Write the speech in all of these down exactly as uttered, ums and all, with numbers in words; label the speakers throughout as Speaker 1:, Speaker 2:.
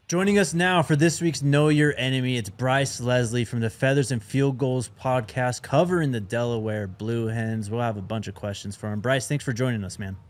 Speaker 1: Joining us now for this week's Know Your Enemy, it's Bryce Leslie from the Feathers and Field Goals podcast covering the Delaware Blue Hens. We'll have a bunch of questions for him. Bryce, thanks for joining us, man.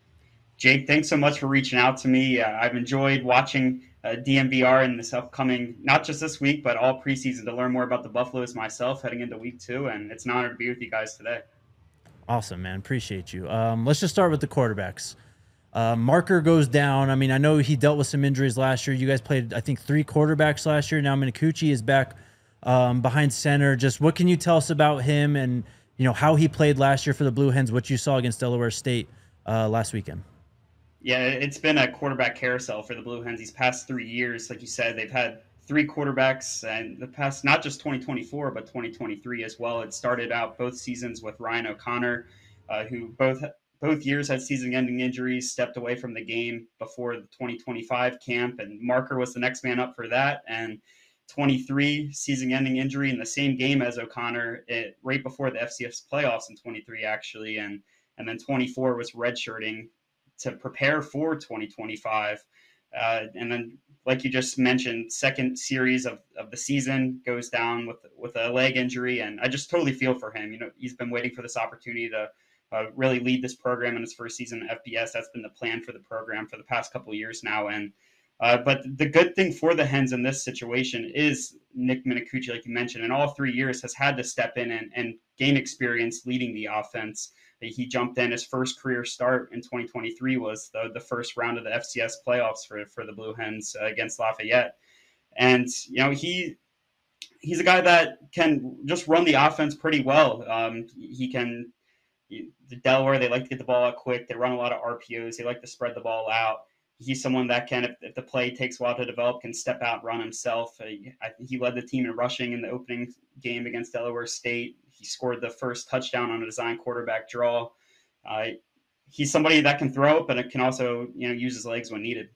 Speaker 2: Jake, thanks so much for reaching out to me. Uh, I've enjoyed watching uh, D M V R in this upcoming, not just this week, but all preseason to learn more about the Buffaloes myself heading into week two. And it's an honor to be with you guys today.
Speaker 1: Awesome, man. Appreciate you. Um, let's just start with the quarterbacks. Uh, Marker goes down. I mean, I know he dealt with some injuries last year. You guys played, I think, three quarterbacks last year. Now Minicucci is back um, behind center. Just what can you tell us about him and, you know, how he played last year for the Blue Hens, what you saw against Delaware State uh, last weekend?
Speaker 2: Yeah, it's been a quarterback carousel for the Blue Hens these past three years. Like you said, they've had three quarterbacks and the past, not just twenty twenty-four, but twenty twenty-three as well. It started out both seasons with Ryan O'Connor, uh, who both both years had season-ending injuries, stepped away from the game before the twenty twenty-five camp, and Marker was the next man up for that. And twenty-three season-ending injury in the same game as O'Connor, it, right before the F C S playoffs in twenty-three, actually, and and then twenty-four was redshirting to prepare for twenty twenty-five. Uh, and then, like you just mentioned, second series of, of the season goes down with with a leg injury, and I just totally feel for him. You know, he's been waiting for this opportunity to uh, really lead this program in his first season at F B S. That's been the plan for the program for the past couple of years now. And uh, but the good thing for the Hens in this situation is Nick Minicucci, like you mentioned, in all three years has had to step in and, and gain experience leading the offense. He jumped in. His first career start in twenty twenty-three was the, the first round of the F C S playoffs for, for the Blue Hens uh, against Lafayette. And, you know, he he's a guy that can just run the offense pretty well. Um, he can – the Delaware, they like to get the ball out quick. They run a lot of R P Os. They like to spread the ball out. He's someone that can, if, if the play takes a while to develop, can step out and run himself. Uh, I, he led the team in rushing in the opening game against Delaware State. He scored the first touchdown on a design quarterback draw. Uh, he's somebody that can throw it, but it can also, you know, use his legs when needed.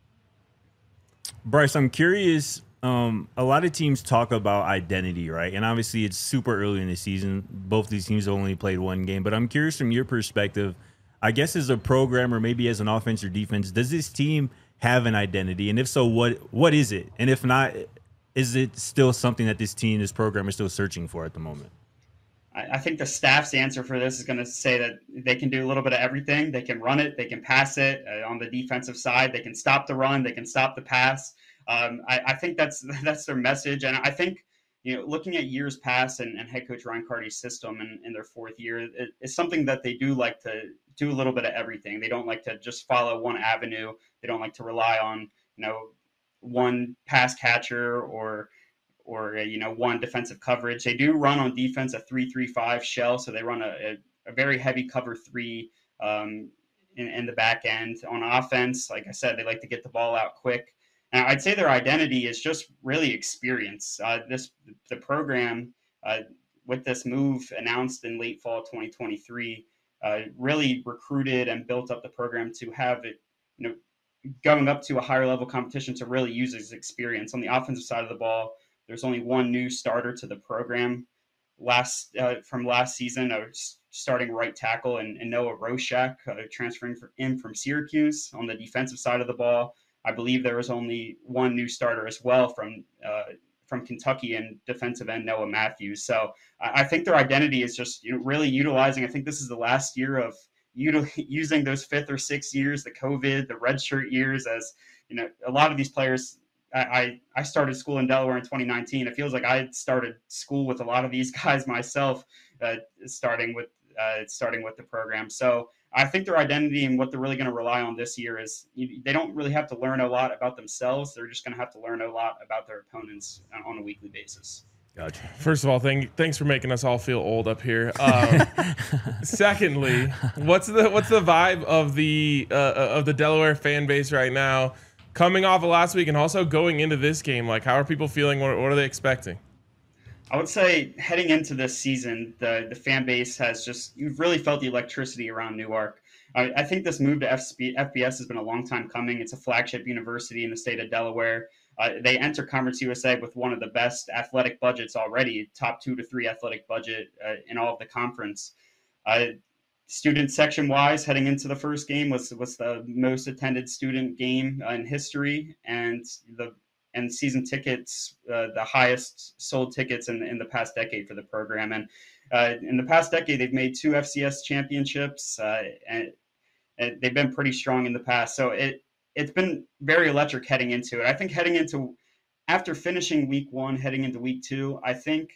Speaker 3: Bryce, I'm curious. Um, a lot of teams talk about identity, right? And obviously it's super early in the season. Both these teams only played one game, but I'm curious from your perspective, I guess as a program or maybe as an offense or defense, does this team have an identity? And if so, what what is it? And if not, is it still something that this team, this program is still searching for at the moment?
Speaker 2: I think the staff's answer for this is going to say that they can do a little bit of everything. They can run it. They can pass it. Uh, on the defensive side, they can stop the run. They can stop the pass. Um, I, I think that's that's their message. And I think, you know, looking at years past and, and head coach Ryan Carty's system in, in their fourth year, it, it's something that they do like to do a little bit of everything. They don't like to just follow one avenue. They don't like to rely on, you know, one pass catcher or or, you know, one defensive coverage. They do run on defense a three three five shell, so they run a, a, a very heavy cover three um, in, in the back end. On offense, like I said, they like to get the ball out quick. And I'd say their identity is just really experience. Uh, this the program uh, with this move announced in late fall twenty twenty-three uh, really recruited and built up the program to have it, you know, going up to a higher level competition to really use its experience. On the offensive side of the ball, there's only one new starter to the program last uh, from last season, uh, starting right tackle, and, and Noah Roshak, uh, transferring for, in from Syracuse. On the defensive side of the ball, I believe there was only one new starter as well from uh, from Kentucky and defensive end Noah Matthews. So I, I think their identity is just, you know, really utilizing. I think this is the last year of util- using those fifth or sixth years, the COVID, the redshirt years, as, you know, a lot of these players. I, I started school in Delaware in twenty nineteen. It feels like I started school with a lot of these guys myself, uh, starting with uh, starting with the program. So I think their identity and what they're really going to rely on this year is you, they don't really have to learn a lot about themselves. They're just going to have to learn a lot about their opponents on a weekly basis.
Speaker 3: Gotcha.
Speaker 4: First of all, thank, thanks for making us all feel old up here. Um, secondly, what's the what's the vibe of the uh, of the Delaware fan base right now? Coming off of last week and also going into this game, like, how are people feeling? What, what are they expecting?
Speaker 2: I would say heading into this season, the, the fan base has just, you've really felt the electricity around Newark. I, I think this move to F B S has been a long time coming. It's a flagship university in the state of Delaware. Uh, they enter Conference U S A with one of the best athletic budgets already, top two to three athletic budget uh, in all of the conference. Uh, Student section wise, heading into the first game was was the most attended student game uh, in history, and the and season tickets, uh, the highest sold tickets in, in the past decade for the program. And uh, in the past decade, they've made two F C S championships, uh, and, and they've been pretty strong in the past. So it, it's been very electric heading into it. I think heading into, after finishing week one, heading into week two, I think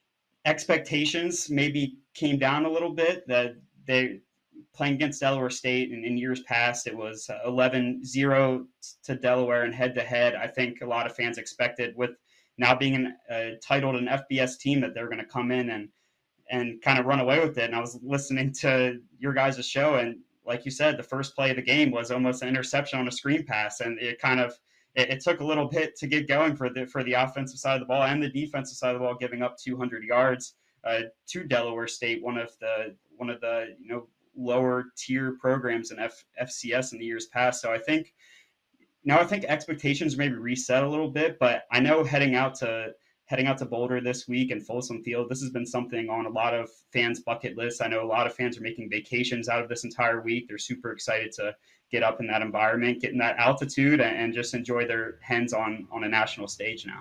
Speaker 2: expectations maybe came down a little bit. That they playing against Delaware State, and in years past, it was eleven zero to Delaware and head to head. I think a lot of fans expected, with now being an, uh, titled an F B S team, that they're going to come in and and kind of run away with it. And I was listening to your guys' show, and like you said, the first play of the game was almost an interception on a screen pass, and it kind of it, it took a little bit to get going for the for the offensive side of the ball and the defensive side of the ball, giving up two hundred yards uh, to Delaware State, one of the one of the you know lower tier programs in F- FCS in the years past. So I think now I think expectations maybe reset a little bit, but I know heading out to heading out to Boulder this week and Folsom Field, this has been something on a lot of fans' bucket lists. I know a lot of fans are making vacations out of this entire week. They're super excited to get up in that environment, get in that altitude, and just enjoy their hens on, on a national stage now.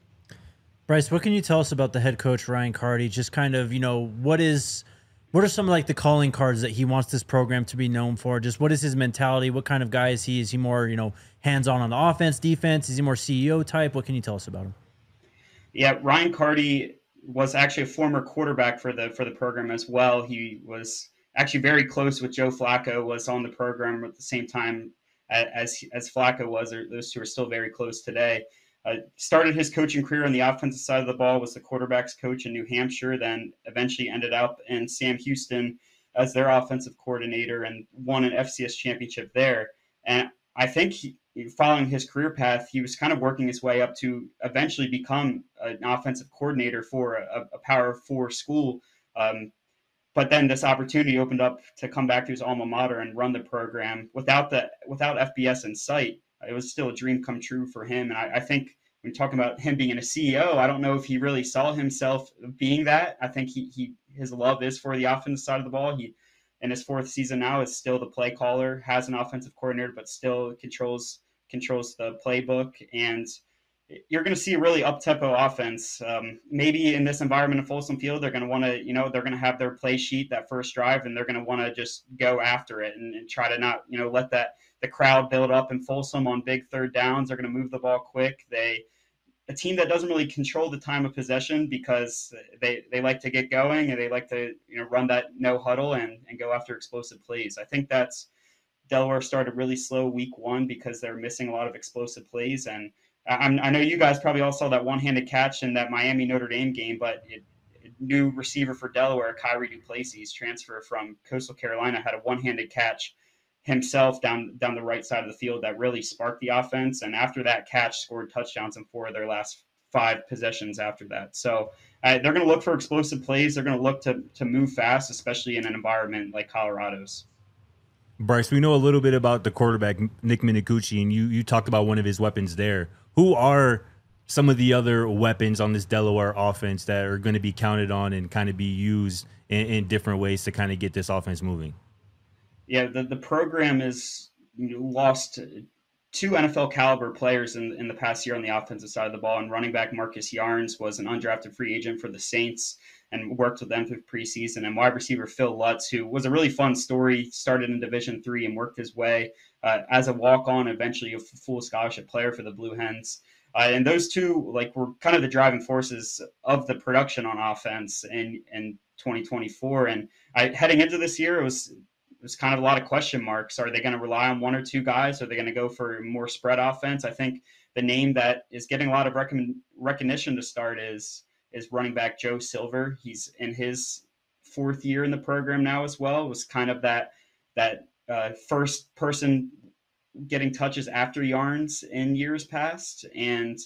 Speaker 1: Bryce, what can you tell us about the head coach, Ryan Carty? Just kind of, you know, what is, what are some of like the calling cards that he wants this program to be known for? Just what is his mentality? What kind of guy is he? Is he more, you know, hands-on on the offense, defense? Is he more C E O type? What can you tell us about him?
Speaker 2: Yeah, Ryan Carty was actually a former quarterback for the for the program as well. He was actually very close with Joe Flacco, was on the program at the same time as as Flacco was. Those two are still very close today. Uh, started his coaching career on the offensive side of the ball, was the quarterback's coach in New Hampshire, then eventually ended up in Sam Houston as their offensive coordinator and won an F C S championship there. And I think he, following his career path, he was kind of working his way up to eventually become an offensive coordinator for a, a Power Four school. Um, but then this opportunity opened up to come back to his alma mater and run the program without the without F B S in sight. It was still a dream come true for him. And I, I think when talking about him being a C E O, I don't know if he really saw himself being that. I think he, he his love is for the offensive side of the ball. He, in his fourth season now, is still the play caller, has an offensive coordinator, but still controls controls the playbook. And you're going to see a really up-tempo offense. Um, maybe in this environment in Folsom Field, they're going to want to, you know, they're going to have their play sheet that first drive, and they're going to want to just go after it and, and try to not, you know, let that the crowd build up in Folsom on big third downs. They're going to move the ball quick. They a team that doesn't really control the time of possession because they, they like to get going and they like to, you know, run that no huddle and, and go after explosive plays. I think that's Delaware started really slow week one because they're missing a lot of explosive plays. And I'm, I know you guys probably all saw that one-handed catch in that Miami Notre Dame game, but it, new receiver for Delaware, Kyrie Duplessis, transfer from Coastal Carolina, had a one-handed catch himself down down the right side of the field that really sparked the offense. And after that catch, scored touchdowns in four of their last five possessions after that. So uh, they're going to look for explosive plays. They're going to look to to move fast, especially in an environment like Colorado's.
Speaker 3: Bryce, we know a little bit about the quarterback, Nick Minicucci, and you you talked about one of his weapons there. Who are some of the other weapons on this Delaware offense that are going to be counted on and kind of be used in, in different ways to kind of get this offense moving?
Speaker 2: Yeah, the, the program has lost two N F L caliber players in, in the past year on the offensive side of the ball. And running back Marcus Yarns was an undrafted free agent for the Saints and worked with them through preseason. And wide receiver Phil Lutz, who was a really fun story, started in Division three and worked his way uh, as a walk-on, eventually a full scholarship player for the Blue Hens. Uh, and those two, like, were kind of the driving forces of the production on offense in, in twenty twenty-four. And I, heading into this year, it was it was kind of a lot of question marks. Are they going to rely on one or two guys? Are they going to go for more spread offense? I think the name that is getting a lot of rec- recognition to start is is running back Joe Silver. He's in his fourth year in the program now as well. It was kind of that that uh, first person getting touches after Yarns in years past. And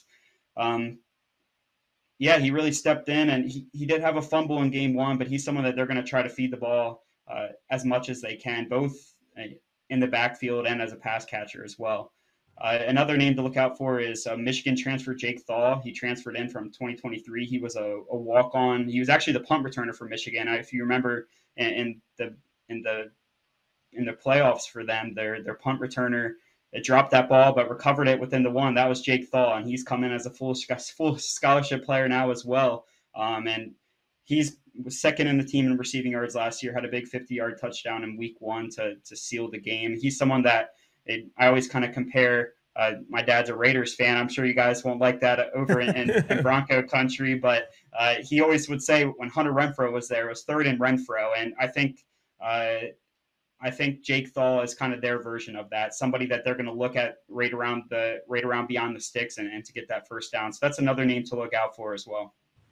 Speaker 2: um, yeah, he really stepped in, and he, he did have a fumble in game one, but he's someone that they're going to try to feed the ball uh, as much as they can, both in the backfield and as a pass catcher as well. Uh, another name to look out for is uh, Michigan transfer Jake Thaw. He transferred in from twenty twenty-three. He was a, a walk-on. He was actually the punt returner for Michigan. If you remember in, in the in the in the playoffs for them, their their punt returner it dropped that ball, but recovered it within the one. That was Jake Thaw, and he's come in as a full full scholarship player now as well. Um, and he's was second in the team in receiving yards last year. Had a big fifty-yard touchdown in week one to to seal the game. He's someone that it, I always kind of compare. Uh, my dad's a Raiders fan. I'm sure you guys won't like that over in, in, in Bronco country, but uh, he always would say when Hunter Renfrow was there, it was third and Renfrow, and I think. Uh, I think Jake Thaw is kind of their version of that. Somebody that they're going to look at right around the right around beyond the sticks and, and to get that first down. So that's another name to look out for as well.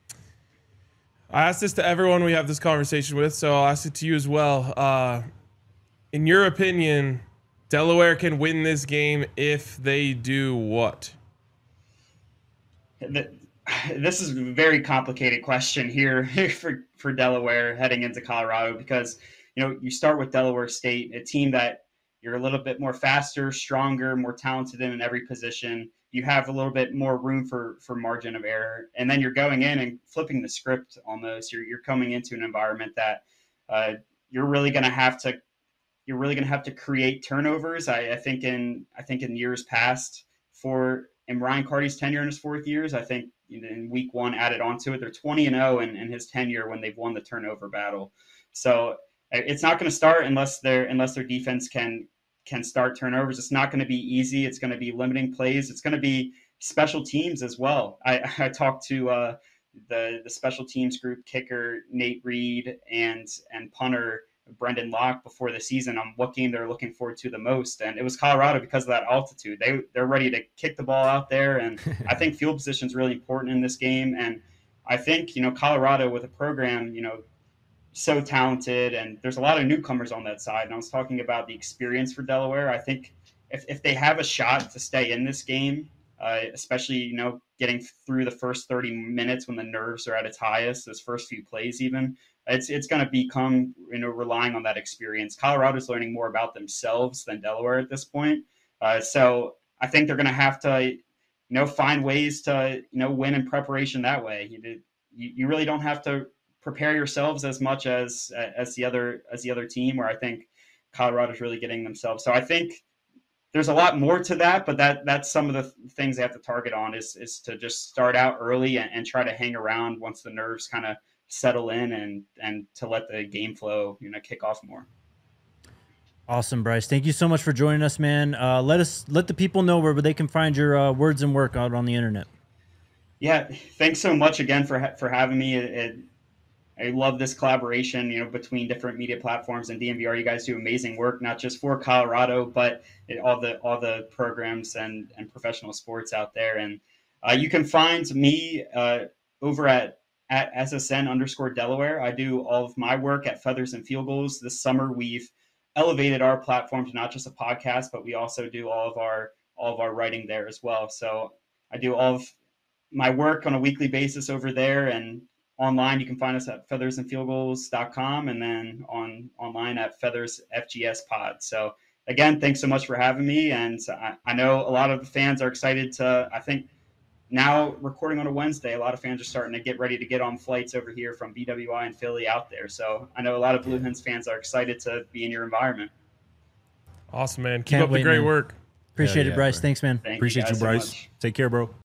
Speaker 4: I ask this to everyone we have this conversation with, so I'll ask it to you as well. Uh, in your opinion, Delaware can win this game if they do what?
Speaker 2: This is a very complicated question here for, for Delaware heading into Colorado because you know, you start with Delaware State, a team that you're a little bit more faster, stronger, more talented in, in every position. You have a little bit more room for for margin of error, and then you're going in and flipping the script almost. You're you're coming into an environment that uh, you're really going to have to you're really going to have to create turnovers. I, I think in I think in years past for in Ryan Carty's tenure in his fourth years, I think in week one added onto it. They're twenty and oh in, in his tenure when they've won the turnover battle. So. It's not going to start unless their unless their defense can can start turnovers. It's not going to be easy. It's going to be limiting plays. It's going to be special teams as well. I, I talked to uh, the the special teams group, kicker Nate Reed and and punter Brendan Locke before the season on what game they're looking forward to the most, and it was Colorado because of that altitude. They they're ready to kick the ball out there, and I think field position is really important in this game. And I think you know Colorado with a program you know. so talented, and there's a lot of newcomers on that side. And I was talking about the experience for Delaware. I think if, if they have a shot to stay in this game, uh, especially, you know, getting through the first thirty minutes when the nerves are at its highest, those first few plays even, it's it's going to become, you know, relying on that experience. Colorado's learning more about themselves than Delaware at this point. Uh, so I think they're going to have to, you know, find ways to, you know, win in preparation that way. You, you, you really don't have to prepare yourselves as much as as the other as the other team, where I think Colorado's really getting themselves. So I think there's a lot more to that, but that that's some of the things they have to target on is is to just start out early and, and try to hang around once the nerves kind of settle in and and to let the game flow, you know, kick off more.
Speaker 1: Awesome, Bryce. Thank you so much for joining us, man. Uh, let us let the people know where they can find your uh, words and work out on the internet.
Speaker 2: Yeah, thanks so much again for for having me. It, it, I love this collaboration, you know, between different media platforms and D N V R. You guys do amazing work, not just for Colorado, but it, all the all the programs and, and professional sports out there. And uh, you can find me uh, over at, at S S N underscore Delaware. I do all of my work at Feathers and Field Goals. This summer, we've elevated our platform to not just a podcast, but we also do all of our all of our writing there as well. So I do all of my work on a weekly basis over there, and online, you can find us at feathers and field goals dot com and then on online at Feathers F G S Pod. So again, thanks so much for having me. And I, I know a lot of the fans are excited to, I think now recording on a Wednesday, a lot of fans are starting to get ready to get on flights over here from B W I and Philly out there. So I know a lot of Blue Hens fans are excited to be in your environment.
Speaker 4: Awesome, man. Keep
Speaker 1: Can't
Speaker 4: up
Speaker 1: wait,
Speaker 4: the great
Speaker 1: man.
Speaker 4: work.
Speaker 1: Appreciate
Speaker 3: yeah,
Speaker 1: it, Bryce.
Speaker 3: bro.
Speaker 1: Thanks, man.
Speaker 2: Thank
Speaker 3: Appreciate
Speaker 2: you,
Speaker 3: you,
Speaker 2: guys so
Speaker 3: Bryce.
Speaker 2: much.
Speaker 3: Take care, bro.